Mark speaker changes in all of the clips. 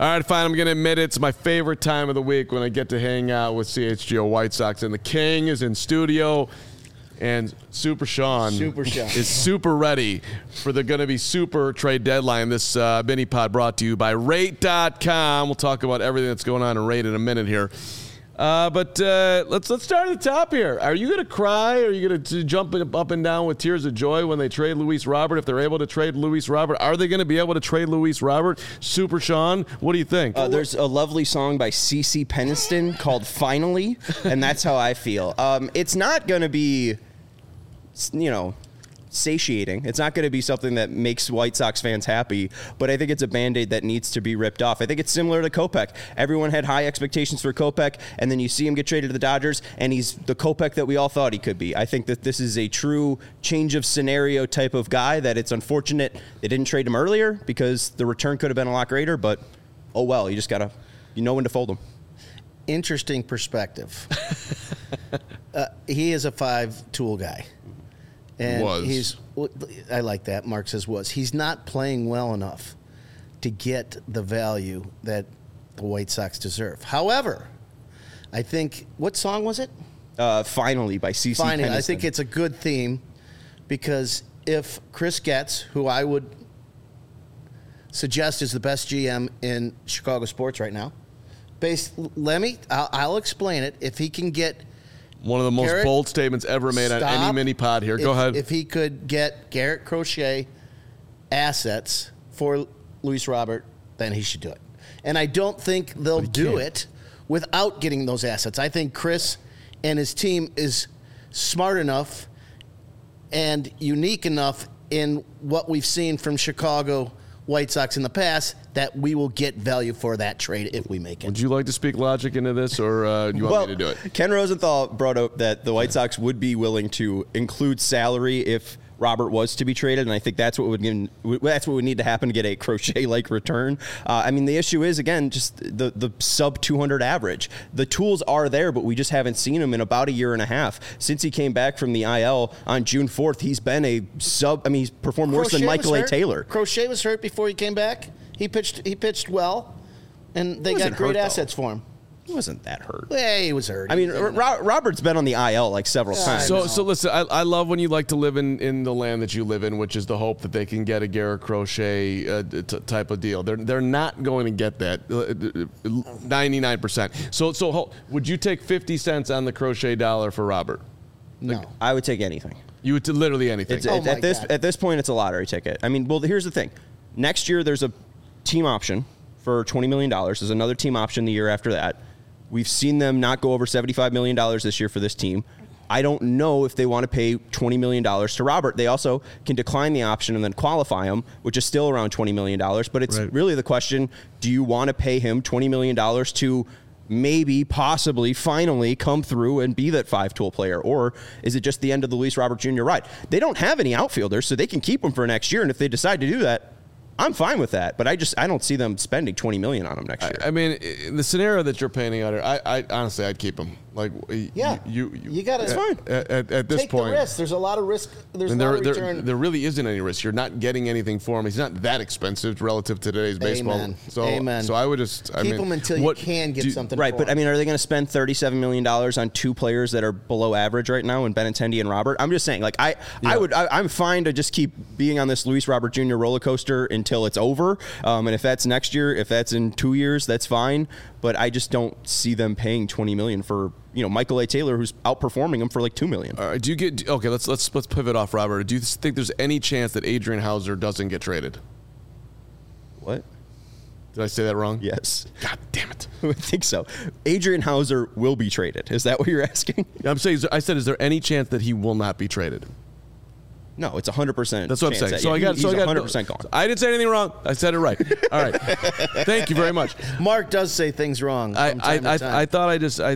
Speaker 1: All right, fine. I'm going to admit it's my favorite time of the week when I get to hang out with CHGO White Sox. And the King is in studio, and Super Sean is super ready for the going to be super trade deadline. This mini pod brought to you by Rate.com. We'll talk about everything that's going on in Rate in a minute here. But let's start at the top here. Are you going to cry? Are you going to jump up and down with tears of joy when they trade Luis Robert? If they're able to trade Luis Robert, are they going to be able to trade Luis Robert? Super Sean, what do you think?
Speaker 2: There's a lovely song by CeCe Peniston called "Finally," and that's how I feel. It's not going to be, satiating. It's not going to be something that makes White Sox fans happy, but I think it's a Band-Aid that needs to be ripped off. I think it's similar to Kopech. Everyone had high expectations for Kopech, and then you see him get traded to the Dodgers, and he's the Kopech that we all thought he could be. I think that this is a true change of scenario type of guy, that it's unfortunate they didn't trade him earlier because the return could have been a lot greater, but oh well, you just got to, when to fold him.
Speaker 3: Interesting perspective. He is a 5-tool guy. And I like that. Mark says was. He's not playing well enough to get the value that the White Sox deserve. However, I think, what song was it?
Speaker 2: Finally by CeCe Peniston.
Speaker 3: I think it's a good theme, because if Chris Getz, who I would suggest is the best GM in Chicago sports right now, I'll explain it. If he can get
Speaker 1: one of the most bold statements ever made on any mini pod here. Go ahead.
Speaker 3: If he could get Garrett Crochet assets for Luis Robert, then he should do it. And I don't think they'll do it without getting those assets. I think Chris and his team is smart enough and unique enough in what we've seen from Chicago White Sox in the past that we will get value for that trade if we make it.
Speaker 1: Would you like to speak logic into this, or do you want me to do it?
Speaker 2: Ken Rosenthal brought up that the White Sox would be willing to include salary if Robert was to be traded, and I think that's what would need to happen to get a Crochet-like return. The issue is, again, just the sub-200 average. The tools are there, but we just haven't seen him in about a year and a half. Since he came back from the IL on June 4th, he's been he's performed worse than Michael A. Taylor.
Speaker 3: Crochet was hurt before he came back. He pitched well, and they got great assets for him.
Speaker 2: He wasn't that hurt.
Speaker 3: Yeah, he was hurt.
Speaker 2: Robert's been on the IL like several times.
Speaker 1: So listen, I love when you like to live in the land that you live in, which is the hope that they can get a Garrett Crochet type of deal. They're not going to get that 99%. So would you take 50 cents on the Crochet dollar for Robert?
Speaker 3: No.
Speaker 2: I would take anything.
Speaker 1: You would literally anything.
Speaker 2: At this point, it's a lottery ticket. Here's the thing. Next year, there's a team option for $20 million. There's another team option the year after that. We've seen them not go over $75 million this year for this team. I don't know if they want to pay $20 million to Robert. They also can decline the option and then qualify him, which is still around $20 million. But it's really the question, do you want to pay him $20 million to maybe, possibly, finally come through and be that 5-tool player? Or is it just the end of the Luis Robert Jr. ride? They don't have any outfielders, so they can keep him for next year. And if they decide to do that, I'm fine with that, but I don't see them spending $20 million on him next year.
Speaker 1: In the scenario that you're painting out here, I honestly, I'd keep him.
Speaker 3: You got to.
Speaker 1: It's fine. At this
Speaker 3: take
Speaker 1: point,
Speaker 3: the risk. There's a lot of risk. There's a lot of return.
Speaker 1: There really isn't any risk. You're not getting anything for him. He's not that expensive relative to today's baseball.
Speaker 3: Amen.
Speaker 1: So I would just
Speaker 3: keep him until you can get something.
Speaker 2: Right,
Speaker 3: but
Speaker 2: are they going to spend $37 million on two players that are below average right now, in Benintendi and Robert? I'm just saying, I'm fine to just keep being on this Luis Robert Jr. roller coaster until it's over. And if that's next year, if that's in 2 years, that's fine. But I just don't see them paying $20 million for Michael A. Taylor, who's outperforming him for like $2 million.
Speaker 1: All right, do you get okay? Let's pivot off Robert. Do you think there's any chance that Adrian Hauser doesn't get traded?
Speaker 2: What?
Speaker 1: Did I say that wrong?
Speaker 2: Yes.
Speaker 1: God damn it!
Speaker 2: I think so. Adrian Hauser will be traded. Is that what you're asking?
Speaker 1: I'm saying. I said, is there any chance that he will not be traded?
Speaker 2: No, it's 100%.
Speaker 1: That's what I'm saying.
Speaker 2: He's 100% gone.
Speaker 1: I didn't say anything wrong. I said it right. All right. Thank you very much.
Speaker 3: Mark does say things wrong.
Speaker 1: I thought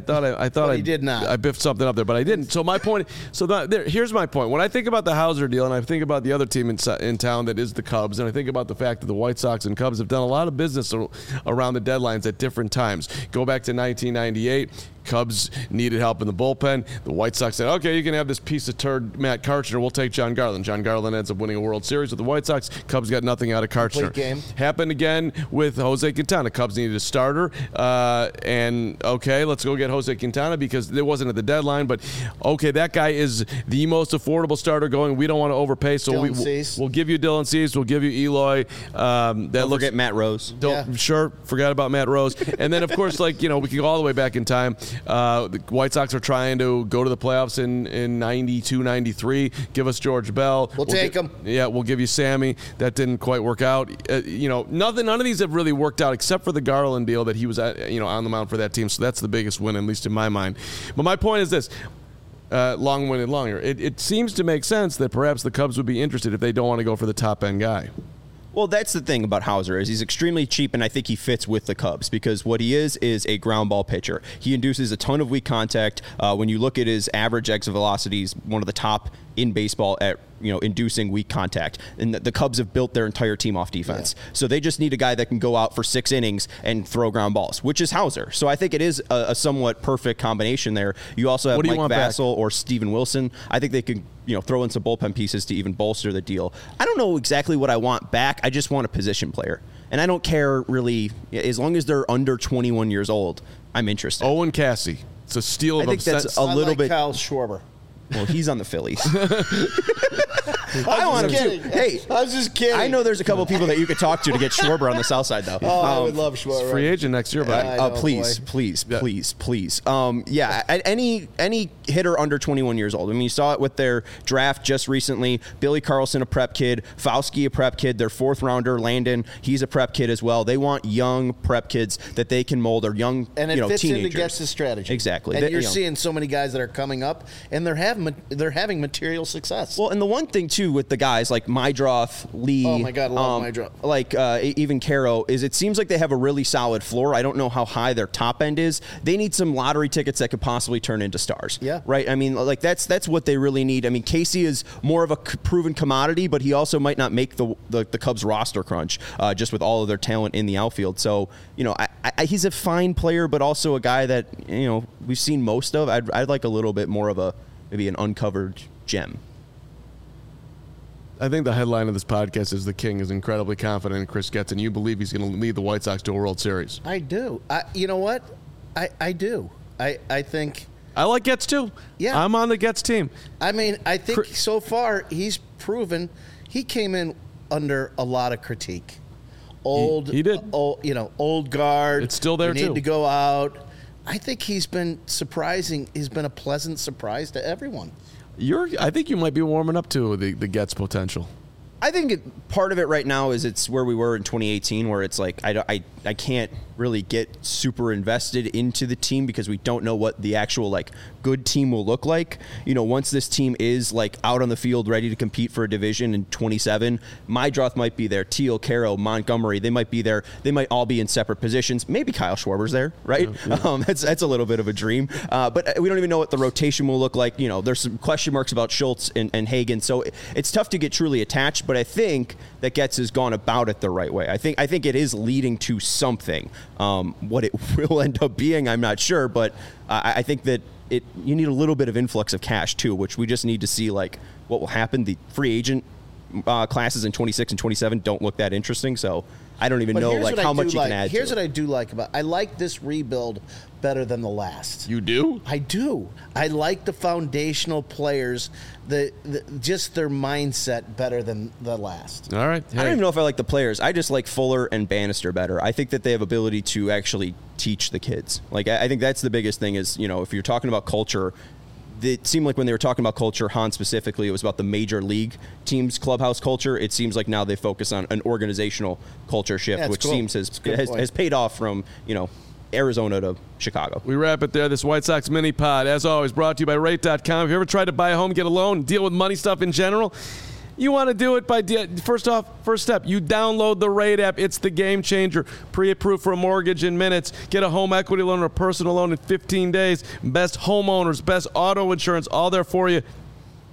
Speaker 1: I
Speaker 3: did not.
Speaker 1: I biffed something up there, but I didn't. So my point. Here's my point. When I think about the Hauser deal, and I think about the other team in town that is the Cubs, and I think about the fact that the White Sox and Cubs have done a lot of business around the deadlines at different times. Go back to 1998. Cubs needed help in the bullpen. The White Sox said, okay, you can have this piece of turd Matt Karchner. We'll take John Garland. John Garland ends up winning a World Series with the White Sox. Cubs got nothing out of Karchner.
Speaker 3: Game.
Speaker 1: Happened again with Jose Quintana. Cubs needed a starter. And, okay, let's go get Jose Quintana because it wasn't at the deadline. But, okay, that guy is the most affordable starter going. We don't want to overpay. So we'll give you Dylan Cease. We'll give you Eloy.
Speaker 2: Don't forget Matt Rose.
Speaker 1: Sure, forgot about Matt Rose. And then, of course, we can go all the way back in time. The White Sox are trying to go to the playoffs in 92, 93. Give us George Bell.
Speaker 3: We'll take him.
Speaker 1: Yeah, we'll give you Sammy. That didn't quite work out. None of these have really worked out except for the Garland deal that he was on the mound for that team. So that's the biggest win, at least in my mind. But my point is this. Long-winded longer. It seems to make sense that perhaps the Cubs would be interested if they don't want to go for the top-end guy.
Speaker 2: Well, that's the thing about Hauser is he's extremely cheap, and I think he fits with the Cubs because what he is a ground ball pitcher. He induces a ton of weak contact. When you look at his average exit velocity, he's one of the top in baseball at inducing weak contact. And the Cubs have built their entire team off defense. Yeah. So they just need a guy that can go out for 6 innings and throw ground balls, which is Hauser. So I think it is a somewhat perfect combination there. You also have Mike Vassell or Steven Wilson. I think they could throw in some bullpen pieces to even bolster the deal. I don't know exactly what I want back. I just want a position player. And I don't care really, as long as they're under 21 years old, I'm interested.
Speaker 1: Owen Cassie. It's a steal of
Speaker 2: I think that's a little bit.
Speaker 3: Kyle Schwarber.
Speaker 2: Well, he's on the Phillies. I want him to. Hey,
Speaker 3: I was just kidding.
Speaker 2: I know there's a couple people that you could talk to get Schwarber on the south side, though.
Speaker 3: I would love Schwarber.
Speaker 1: Free agent next year, but
Speaker 2: please. Any hitter under 21 years old. I mean, you saw it with their draft just recently. Billy Carlson, a prep kid. Fauski, a prep kid. Their 4th rounder, Landon, he's a prep kid as well. They want young prep kids that they can mold or young,
Speaker 3: and it fits
Speaker 2: teenagers.
Speaker 3: into Gets' strategy.
Speaker 2: Exactly.
Speaker 3: And you're seeing so many guys that are coming up, and they're having material success.
Speaker 2: Well, and the one thing too with the guys like Mydroth, Lee,
Speaker 3: oh my God, love Mydroth,
Speaker 2: even Caro, is it seems like they have a really solid floor. I don't know how high their top end is. They need some lottery tickets that could possibly turn into stars.
Speaker 3: Yeah,
Speaker 2: right. I mean, that's what they really need. I mean, Casey is more of a proven commodity, but he also might not make the Cubs roster crunch just with all of their talent in the outfield. So he's a fine player, but also a guy that we've seen most of. I'd like a little bit more of maybe an uncovered gem.
Speaker 1: I think the headline of this podcast is the King is incredibly confident in Chris Getz, and you believe he's going to lead the White Sox to a World Series.
Speaker 3: I do. You know what? I do. I think...
Speaker 1: I like Getz, too.
Speaker 3: Yeah.
Speaker 1: I'm on the Getz team.
Speaker 3: I mean, I think so far he's proven he came in under a lot of critique.
Speaker 1: He did.
Speaker 3: Old guard.
Speaker 1: It's still there,
Speaker 3: too.
Speaker 1: You
Speaker 3: need to go out. I think he's been surprising. He's been a pleasant surprise to everyone.
Speaker 1: I think you might be warming up to the Getz potential.
Speaker 2: I think part of it right now is it's where we were in 2018, where it's like I can't really get super invested into the team because we don't know what the actual good team will look like. Once this team is out on the field ready to compete for a division in 27, Mydroth might be there, Teal, Caro, Montgomery, they might be there. They might all be in separate positions. Maybe Kyle Schwarber's there, right? Yeah. That's a little bit of a dream. But we don't even know what the rotation will look like. There's some question marks about Schultz and Hagen, so it's tough to get truly attached. But I think that Getz has gone about it the right way. I think it is leading to something. What it will end up being, I'm not sure, but I think that you need a little bit of influx of cash too, which we just need to see what will happen. The free agent classes in 26 and 27 don't look that interesting, so I don't even know how much you can add.
Speaker 3: Here's what I do like about. I like this rebuild better than the last.
Speaker 1: You do?
Speaker 3: I do. I like the foundational players, just their mindset better than the last.
Speaker 1: All right. Hey.
Speaker 2: I don't even know if I like the players. I just like Fuller and Bannister better. I think that they have ability to actually teach the kids. I think that's the biggest thing is, if you're talking about culture, it seemed like when they were talking about culture, Han specifically, it was about the major league team's clubhouse culture. It seems like now they focus on an organizational culture shift, which seems has paid off from, Arizona to Chicago.
Speaker 1: We wrap it there. This White Sox mini pod, as always, brought to you by Rate.com. Have you ever tried to buy a home, get a loan, deal with money stuff in general? You want to do it by first step, you download the Rate app. It's the game changer. Pre-approved for a mortgage in minutes. Get a home equity loan or a personal loan in 15 days. Best homeowners, best auto insurance, all there for you.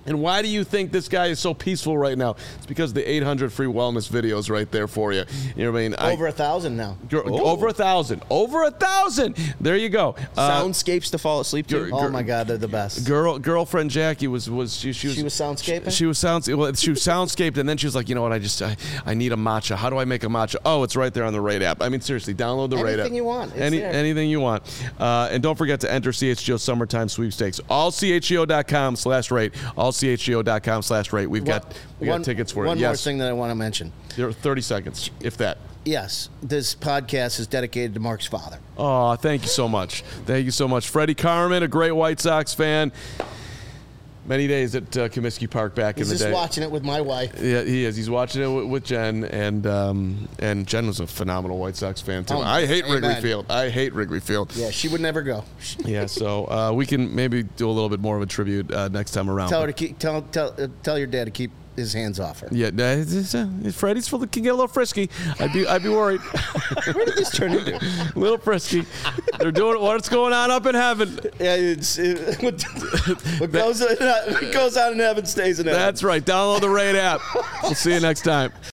Speaker 1: And why do you think this guy is so peaceful right now? It's because the 800 free wellness videos right there for you. You know what I mean?
Speaker 3: Over 1,000 now.
Speaker 1: Over 1,000. Over 1,000. There you go.
Speaker 2: Soundscapes to fall asleep to.
Speaker 3: Oh my God, they're the best.
Speaker 1: Girlfriend Jackie was she was
Speaker 3: soundscaping.
Speaker 1: She was soundscaped, and then she was like, you know what? I need a matcha. How do I make a matcha? Oh, it's right there on the Rate app. I mean, seriously, download the Rate app.
Speaker 3: Anything you want. It's there.
Speaker 1: Anything you want. And don't forget to enter CHGO Summertime Sweepstakes. All CHGO.com/rate. All CHGO.com/rate. We got tickets for it.
Speaker 3: One more thing that I want to mention.
Speaker 1: There are 30 seconds, if that.
Speaker 3: Yes, this podcast is dedicated to Mark's father.
Speaker 1: Oh, thank you so much. Thank you so much. Freddie Carmen, a great White Sox fan. Many days at Comiskey Park back in the day.
Speaker 3: He's just watching it with my wife.
Speaker 1: Yeah, he is. He's watching it with Jen, and Jen was a phenomenal White Sox fan, too.
Speaker 3: Oh,
Speaker 1: I hate
Speaker 3: amen.
Speaker 1: Wrigley Field. I hate Wrigley Field.
Speaker 3: Yeah, she would never go.
Speaker 1: Yeah, so we can maybe do a little bit more of a tribute next time around.
Speaker 3: Tell her to keep. Tell your dad to keep his hands off her.
Speaker 1: Yeah, Freddie's can get a little frisky. I'd be worried.
Speaker 2: Where did this turn into?
Speaker 1: A little frisky. They're doing what's going on up in heaven.
Speaker 3: Yeah, what goes on in heaven stays in heaven.
Speaker 1: That's right. Download the Rate app. We'll see you next time.